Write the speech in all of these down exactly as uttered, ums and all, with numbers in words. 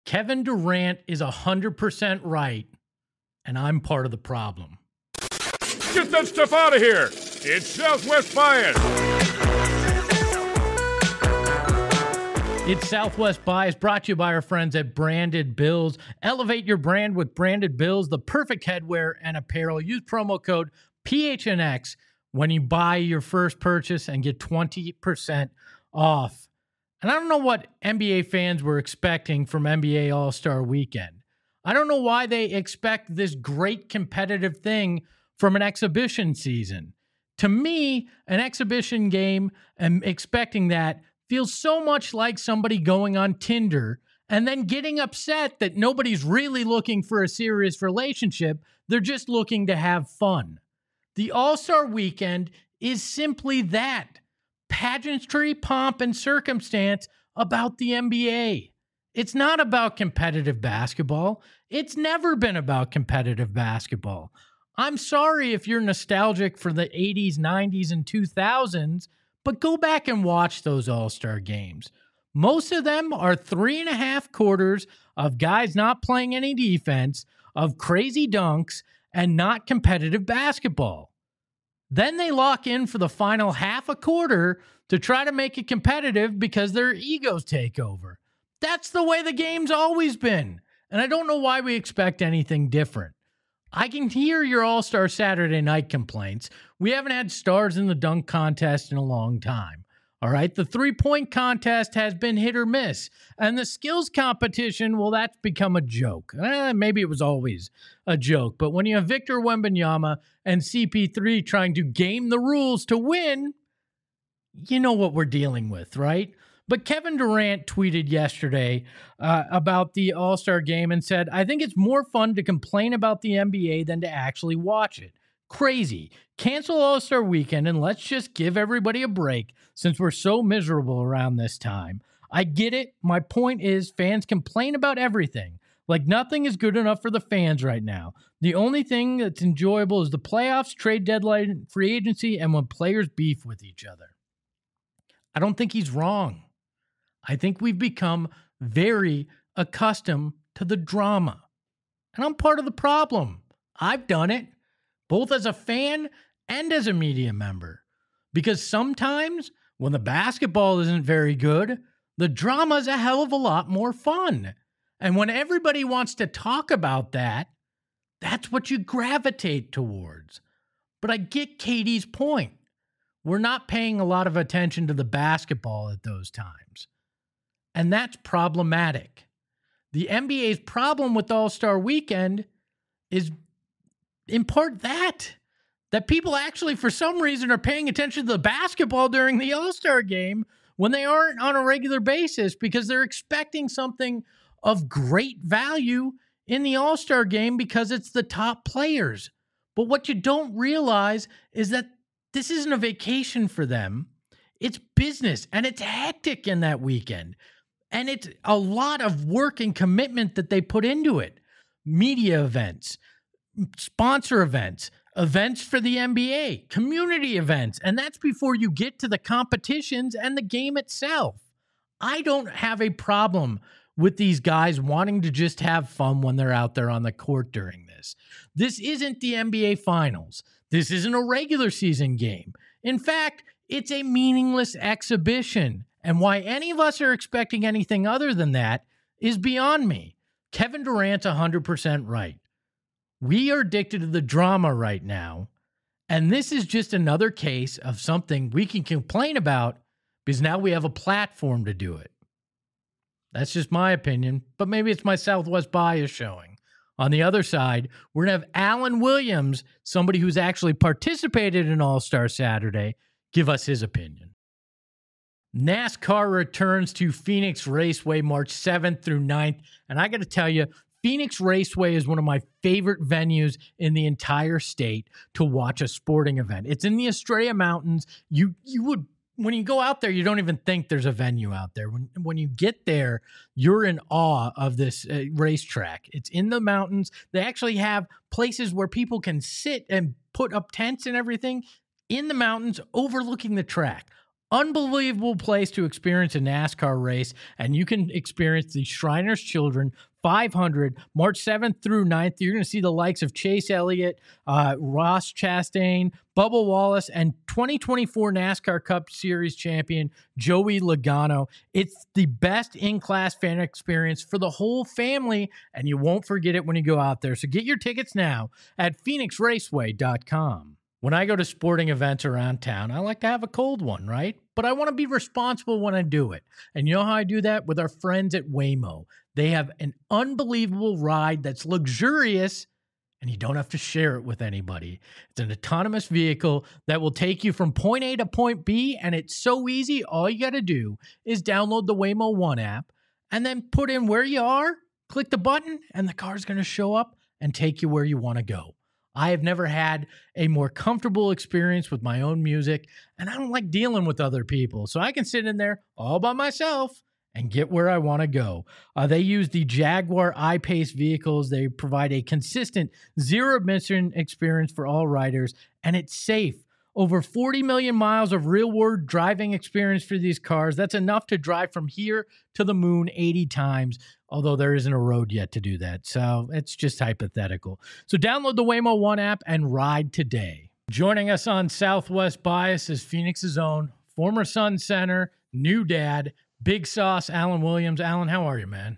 Kevin Durant is one hundred percent right, and I'm part of the problem. Get that stuff out of here! It's Southwest Bias! It's Southwest Bias, brought to you by our friends at Branded Bills. Elevate your brand with Branded Bills, the perfect headwear and apparel. Use promo code P H N X when you buy your first purchase and get twenty percent off. And I don't know what N B A fans were expecting from N B A All-Star Weekend. I don't know why they expect this great competitive thing from an exhibition season. To me, an exhibition game and expecting that feels so much like somebody going on Tinder and then getting upset that nobody's really looking for a serious relationship. They're just looking to have fun. The All-Star Weekend is simply that. Pageantry, pomp, and circumstance about the N B A. It's not about competitive basketball. It's never been about competitive basketball. I'm sorry if you're nostalgic for the eighties, nineties, and two thousands, but go back and watch those All-Star games. Most of them are three and a half quarters of guys not playing any defense, of crazy dunks, and not competitive basketball. Then they lock in for the final half a quarter to try to make it competitive because their egos take over. That's the way the game's always been. And I don't know why we expect anything different. I can hear your All-Star Saturday night complaints. We haven't had stars in the dunk contest in a long time. All right, the three-point contest has been hit or miss. And the skills competition, well, that's become a joke. Eh, maybe it was always a joke. But when you have Victor Wembanyama and C P three trying to game the rules to win, you know what we're dealing with, right? But Kevin Durant tweeted yesterday uh, about the All-Star game and said, I think it's more fun to complain about the N B A than to actually watch it. Crazy. Cancel All-Star Weekend and let's just give everybody a break since we're so miserable around this time. I get it. My point is fans complain about everything. Like nothing is good enough for the fans right now. The only thing that's enjoyable is the playoffs, trade deadline, free agency, and when players beef with each other. I don't think he's wrong. I think we've become very accustomed to the drama. And I'm part of the problem. I've done it, both as a fan and as a media member. Because sometimes when the basketball isn't very good, the drama's a hell of a lot more fun. And when everybody wants to talk about that, that's what you gravitate towards. But I get Katie's point. We're not paying a lot of attention to the basketball at those times. And that's problematic. The N B A's problem with All-Star Weekend is in part that. That people actually, for some reason, are paying attention to the basketball during the All-Star game when they aren't on a regular basis because they're expecting something of great value in the All-Star game because it's the top players. But what you don't realize is that this isn't a vacation for them. It's business, and it's hectic in that weekend. And it's a lot of work and commitment that they put into it. Media events, sponsor events, events for the N B A, community events. And that's before you get to the competitions and the game itself. I don't have a problem with these guys wanting to just have fun when they're out there on the court during this. This isn't the N B A Finals. This isn't a regular season game. In fact, it's a meaningless exhibition. And why any of us are expecting anything other than that is beyond me. Kevin Durant's one hundred percent right. We are addicted to the drama right now. And this is just another case of something we can complain about because now we have a platform to do it. That's just my opinion, but maybe it's my Southwest bias showing. On the other side, we're going to have Alan Williams, somebody who's actually participated in All-Star Saturday, give us his opinion. NASCAR returns to Phoenix Raceway March seventh through ninth. And I got to tell you, Phoenix Raceway is one of my favorite venues in the entire state to watch a sporting event. It's in the Estrella Mountains. You you would when you go out there, you don't even think there's a venue out there. When when you get there, you're in awe of this uh, racetrack. It's in the mountains. They actually have places where people can sit and put up tents and everything in the mountains overlooking the track. unbelievable place to experience a NASCAR race, and you can experience the Shriners Children five hundred, March seventh through ninth. You're going to see the likes of Chase Elliott, uh, Ross Chastain, Bubba Wallace, and twenty twenty-four NASCAR Cup Series champion Joey Logano. It's the best in-class fan experience for the whole family, and you won't forget it when you go out there. So get your tickets now at phoenix raceway dot com. When I go to sporting events around town, I like to have a cold one, right? But I want to be responsible when I do it. And you know how I do that? With our friends at Waymo. They have an unbelievable ride that's luxurious, and you don't have to share it with anybody. It's an autonomous vehicle that will take you from point A to point B, and it's so easy. All you got to do is download the Waymo One app and then put in where you are, click the button, and the car's going to show up and take you where you want to go. I have never had a more comfortable experience with my own music, and I don't like dealing with other people. So I can sit in there all by myself and get where I want to go. Uh, they use the Jaguar I-Pace vehicles. They provide a consistent zero-emission experience for all riders, and it's safe. Over forty million miles of real-world driving experience for these cars. That's enough to drive from here to the moon eighty times, although there isn't a road yet to do that. So it's just hypothetical. So download the Waymo One app and ride today. Joining us on Southwest Bias is Phoenix's own former Sun center, new dad, Big Sauce, Alan Williams. Alan, how are you, man?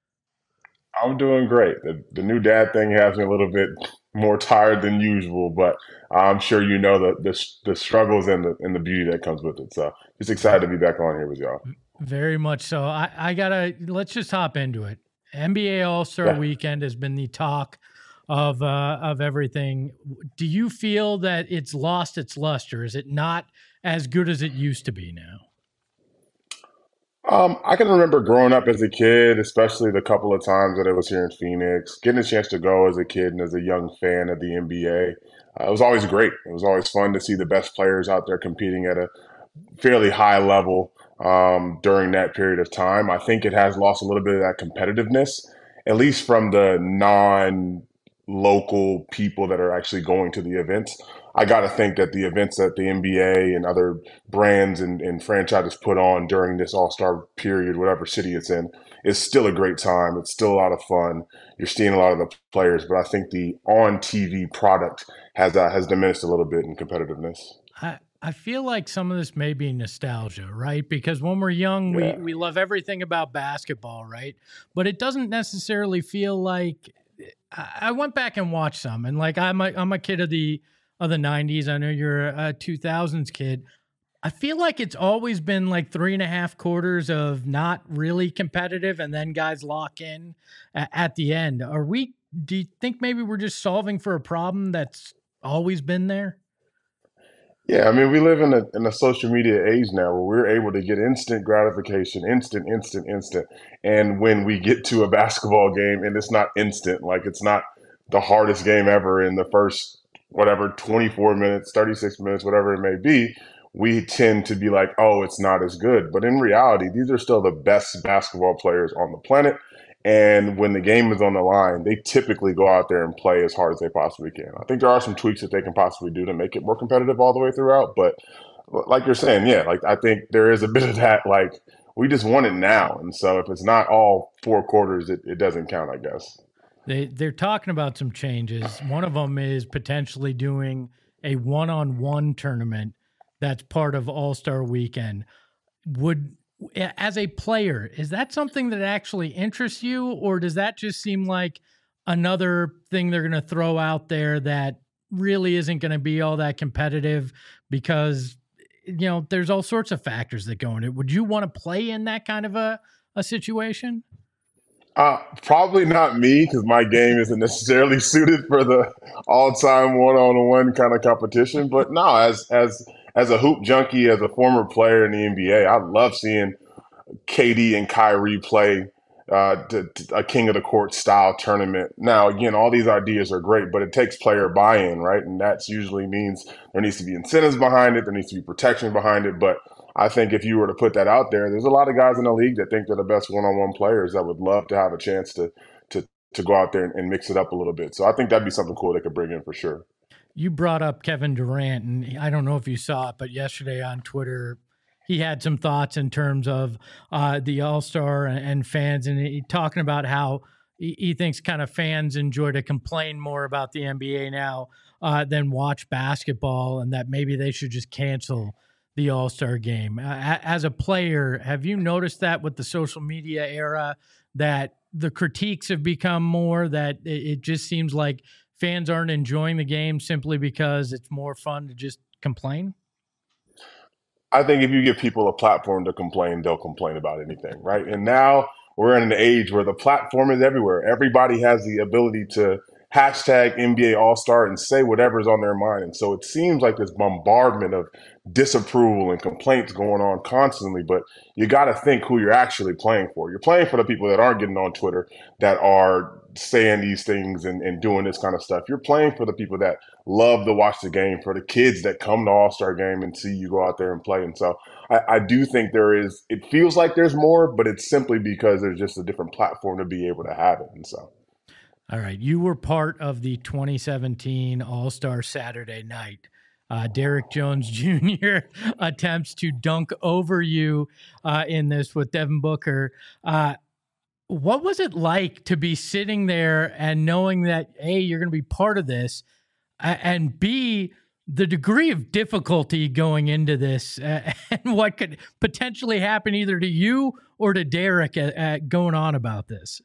I'm doing great. The, the new dad thing has me a little bit more tired than usual, but I'm sure you know the the, the struggles and the and the beauty that comes with it. So just excited to be back on here with y'all. Very much so. I, I gotta let's just hop into it. N B A All-Star yeah. Weekend has been the talk of uh, of everything. Do you feel that it's lost its luster? Is it not as good as it used to be now? Um, I can remember growing up as a kid, especially the couple of times that I was here in Phoenix, getting a chance to go as a kid and as a young fan of the N B A. Uh, it was always great. It was always fun to see the best players out there competing at a fairly high level um, during that period of time. I think it has lost a little bit of that competitiveness, at least from the non-local people that are actually going to the events. I got to think that the events that the N B A and other brands and, and franchises put on during this All-Star period, whatever city it's in, is still a great time. It's still a lot of fun. You're seeing a lot of the players, but I think the on-T V product has uh, has diminished a little bit in competitiveness. I, I feel like some of this may be nostalgia, right? Because when we're young, yeah. we, we love everything about basketball, right? But it doesn't necessarily feel like – I went back and watched some, and like I'm a, I'm a kid of the – of the nineties. I know you're a two thousands kid. I feel like it's always been like three and a half quarters of not really competitive, and then guys lock in at, at the end. Are we, do you think maybe we're just solving for a problem that's always been there? Yeah, I mean, we live in a in a social media age now where we're able to get instant gratification, instant, instant, instant. And when we get to a basketball game and it's not instant, like it's not the hardest game ever in the first whatever, twenty-four minutes, thirty-six minutes, whatever it may be, we tend to be like, oh, it's not as good. But in reality, these are still the best basketball players on the planet. And when the game is on the line, they typically go out there and play as hard as they possibly can. I think there are some tweaks that they can possibly do to make it more competitive all the way throughout. But like you're saying, yeah, like I think there is a bit of that, like we just want it now. And so if it's not all four quarters, it, it doesn't count, I guess. They, they're talking about some changes. One of them is potentially doing a one-on-one tournament that's part of All-Star Weekend. Would, as a player, is that something that actually interests you, or does that just seem like another thing they're going to throw out there that really isn't going to be all that competitive because, you know, there's all sorts of factors that go in it. Would you want to play in that kind of a, a situation? Uh, probably not me, because my game isn't necessarily suited for the all-time one-on-one kind of competition. But no, as as as a hoop junkie, as a former player in the N B A, I love seeing K D and Kyrie play uh, to, to a King of the Court style tournament. Now, again, all these ideas are great, but it takes player buy-in, right? And that usually means there needs to be incentives behind it, there needs to be protection behind it, but I think if you were to put that out there, there's a lot of guys in the league that think they're the best one-on-one players that would love to have a chance to to to go out there and, and mix it up a little bit. So I think that'd be something cool they could bring in for sure. You brought up Kevin Durant, and I don't know if you saw it, but yesterday on Twitter, he had some thoughts in terms of uh, the All-Star and, and fans, and he talking about how he, he thinks kind of fans enjoy to complain more about the N B A now uh, than watch basketball, and that maybe they should just cancel the All-Star game. Uh, as a player, have you noticed that with the social media era, that the critiques have become more, that it, it just seems like fans aren't enjoying the game simply because it's more fun to just complain? I think if you give people a platform to complain, they'll complain about anything, right? And now we're in an age where the platform is everywhere. Everybody has the ability to hashtag N B A All-Star and say whatever's on their mind. And so it seems like this bombardment of disapproval and complaints going on constantly, but you got to think who you're actually playing for. You're playing for the people that aren't getting on Twitter, that are saying these things and, and doing this kind of stuff. You're playing for the people that love to watch the game, for the kids that come to All-Star game and see you go out there and play. And so I, I do think there is, it feels like there's more, but it's simply because there's just a different platform to be able to have it. And so. All right. You were part of the twenty seventeen All-Star Saturday night. Uh, Derrick Jones Junior attempts to dunk over you uh, in this with Devin Booker. Uh, what was it like to be sitting there and knowing that, A, you're going to be part of this, uh, and B, the degree of difficulty going into this uh, and what could potentially happen either to you or to Derrick at, at going on about this?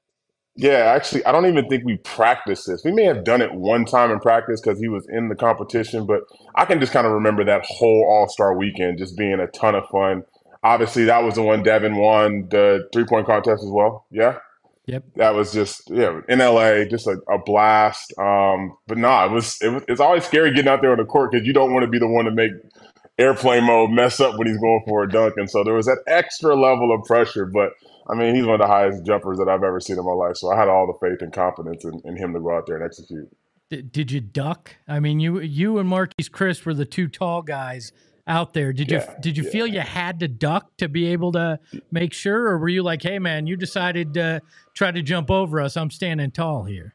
Yeah, actually, I don't even think we practiced this. We may have done it one time in practice because he was in the competition, but I can just kind of remember that whole All-Star weekend just being a ton of fun. Obviously, that was the one Devin won the three-point contest as well. Yeah? Yep. That was just, yeah, in L A, just a, a blast. Um, but no, nah, it was, it was, it's always scary getting out there on the court because you don't want to be the one to make airplane mode mess up when he's going for a dunk. And so there was that extra level of pressure, but I mean, he's one of the highest jumpers that I've ever seen in my life. So I had all the faith and confidence in, in him to go out there and execute. Did, did you duck? I mean, you you and Marquise Chriss were the two tall guys out there. Did yeah, you did you yeah. feel you had to duck to be able to make sure, or were you like, hey man, you decided to try to jump over us, I'm standing tall here?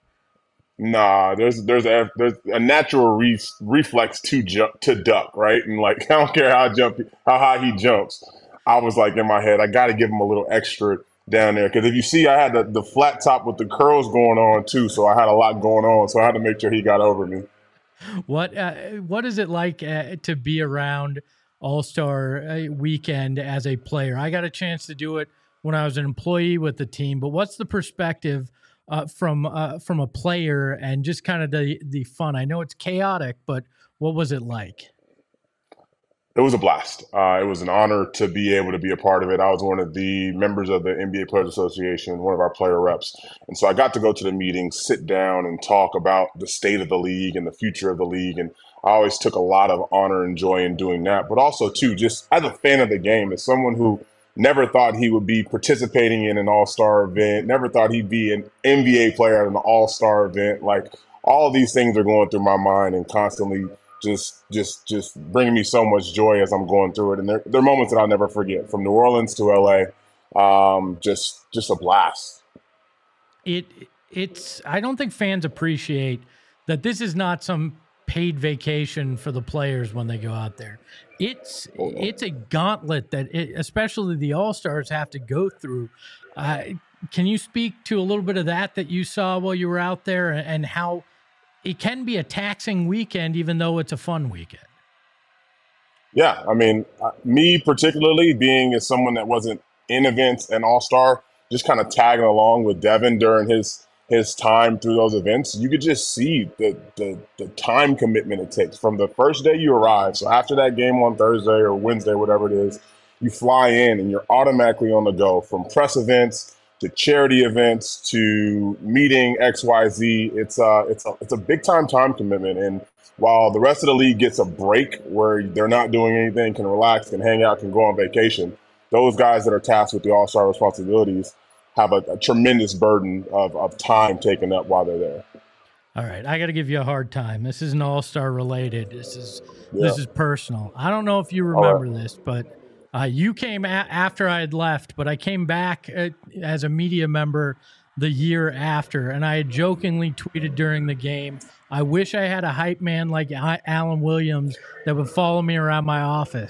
Nah, there's there's a there's a natural re- reflex to jump to duck, right? And like I don't care how jump how high he jumps. I was like in my head, I got to give him a little extra down there because if you see, I had the, the flat top with the curls going on too, so I had a lot going on, so I had to make sure he got over me. What uh, what is it like uh, to be around All-Star uh, weekend as a player? I got a chance to do it when I was an employee with the team, but what's the perspective uh, from uh, from a player and just kind of the the fun? I know it's chaotic, but what was it like? It was a blast. Uh, it was an honor to be able to be a part of it. I was one of the members of the N B A Players Association, one of our player reps. And so I got to go to the meeting, sit down and talk about the state of the league and the future of the league. And I always took a lot of honor and joy in doing that. But also, too, just as a fan of the game, as someone who never thought he would be participating in an all-star event, never thought he'd be an N B A player at an all-star event. Like, all of these things are going through my mind and constantly just just just bringing me so much joy as I'm going through it. And there, there are moments that I'll never forget, from New Orleans to L A. Um, just just a blast. It it's I don't think fans appreciate that this is not some paid vacation for the players when they go out there. It's oh, no. it's a gauntlet that it, especially the All-Stars have to go through. Uh, can you speak to a little bit of that that you saw while you were out there, and how it can be a taxing weekend, even though it's a fun weekend? Yeah, I mean, uh, me particularly, being as someone that wasn't in events and All-Star, just kind of tagging along with Devin during his his time through those events, you could just see the, the the time commitment it takes from the first day you arrive. So after that game on Thursday or Wednesday, whatever it is, you fly in and you're automatically on the go, from press events to charity events to meeting X Y Z. It's a, it's a, it's a big time time commitment. And while the rest of the league gets a break where they're not doing anything, can relax, can hang out, can go on vacation, those guys that are tasked with the All-Star responsibilities have a, a tremendous burden of, of time taken up while they're there. All right, I got to give you a hard time. This isn't All-Star related. This is Yeah. this is personal. I don't know if you remember right. this, but uh, you came a- after I had left, but I came back uh, as a media member the year after, and I had jokingly tweeted during the game, I wish I had a hype man like Alan Williams that would follow me around my office.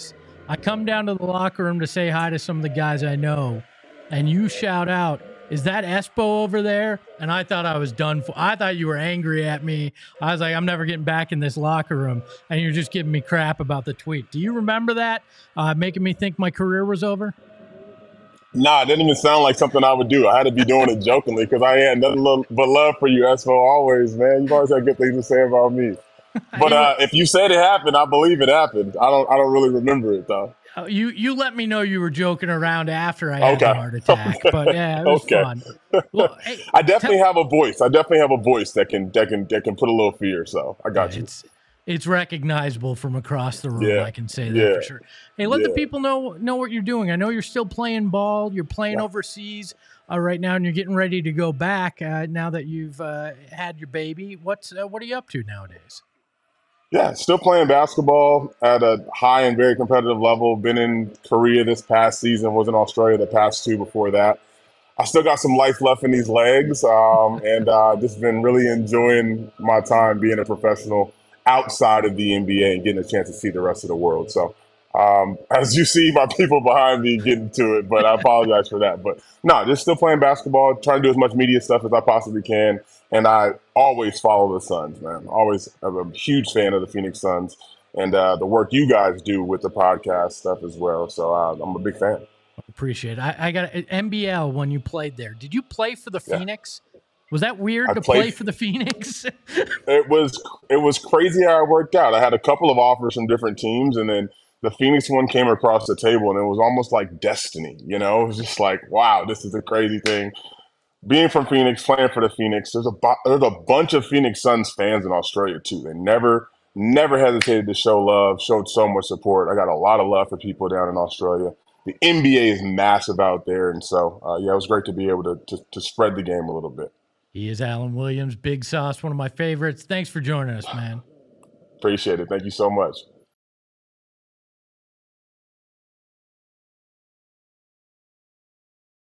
I come down to the locker room to say hi to some of the guys I know, and you shout out, "Is that Espo over there?" And I thought I was done for. I thought you were angry at me. I was like, I'm never getting back in this locker room. And you're just giving me crap about the tweet. Do you remember that? Uh, making me think my career was over? Nah, it didn't even sound like something I would do. I had to be doing it jokingly because I had nothing but love for you, Espo, always, man. You've always had good things to say about me. But uh, if you said it happened, I believe it happened. I don't I don't really remember it, though. Uh, you you let me know you were joking around after I had Okay. the heart attack. Okay. But, yeah, it was Okay. fun. Well, hey, I definitely have a voice. I definitely have a voice that can that can that can put a little fear. So I got you. It's it's recognizable from across the room. Yeah. I can say that Yeah. for sure. Hey, let the Yeah. people know know what you're doing. I know you're still playing ball. You're playing Yeah. overseas uh, right now, and you're getting ready to go back uh, now that you've uh, had your baby. What's uh, what are you up to nowadays? Yeah, still playing basketball at a high and very competitive level. Been in Korea this past season, was in Australia the past two before that. I still got some life left in these legs, um, and uh, just been really enjoying my time being a professional outside of the N B A and getting a chance to see the rest of the world. So, um, as you see, my people behind me getting to it, but I apologize for that. But no, just still playing basketball, trying to do as much media stuff as I possibly can, and I always follow the Suns, man. Always, I'm a huge fan of the Phoenix Suns and uh, the work you guys do with the podcast stuff as well. So uh, I'm a big fan. Appreciate it. I, I got N B L when you played there. Did you play for the Yeah. Phoenix? Was that weird I to played- play for the Phoenix? It was it was crazy how it worked out. I had a couple of offers from different teams, and then the Phoenix one came across the table, and it was almost like destiny. You know, it was just like, wow, this is a crazy thing. Being from Phoenix, playing for the Phoenix, there's a bu- there's a bunch of Phoenix Suns fans in Australia too. They never never hesitated to show love, showed so much support. I got a lot of love for people down in Australia. The N B A is massive out there, and so uh, yeah, it was great to be able to, to to spread the game a little bit. He is Alan Williams, Big Sauce, one of my favorites. Thanks for joining us, man. Appreciate it. Thank you so much.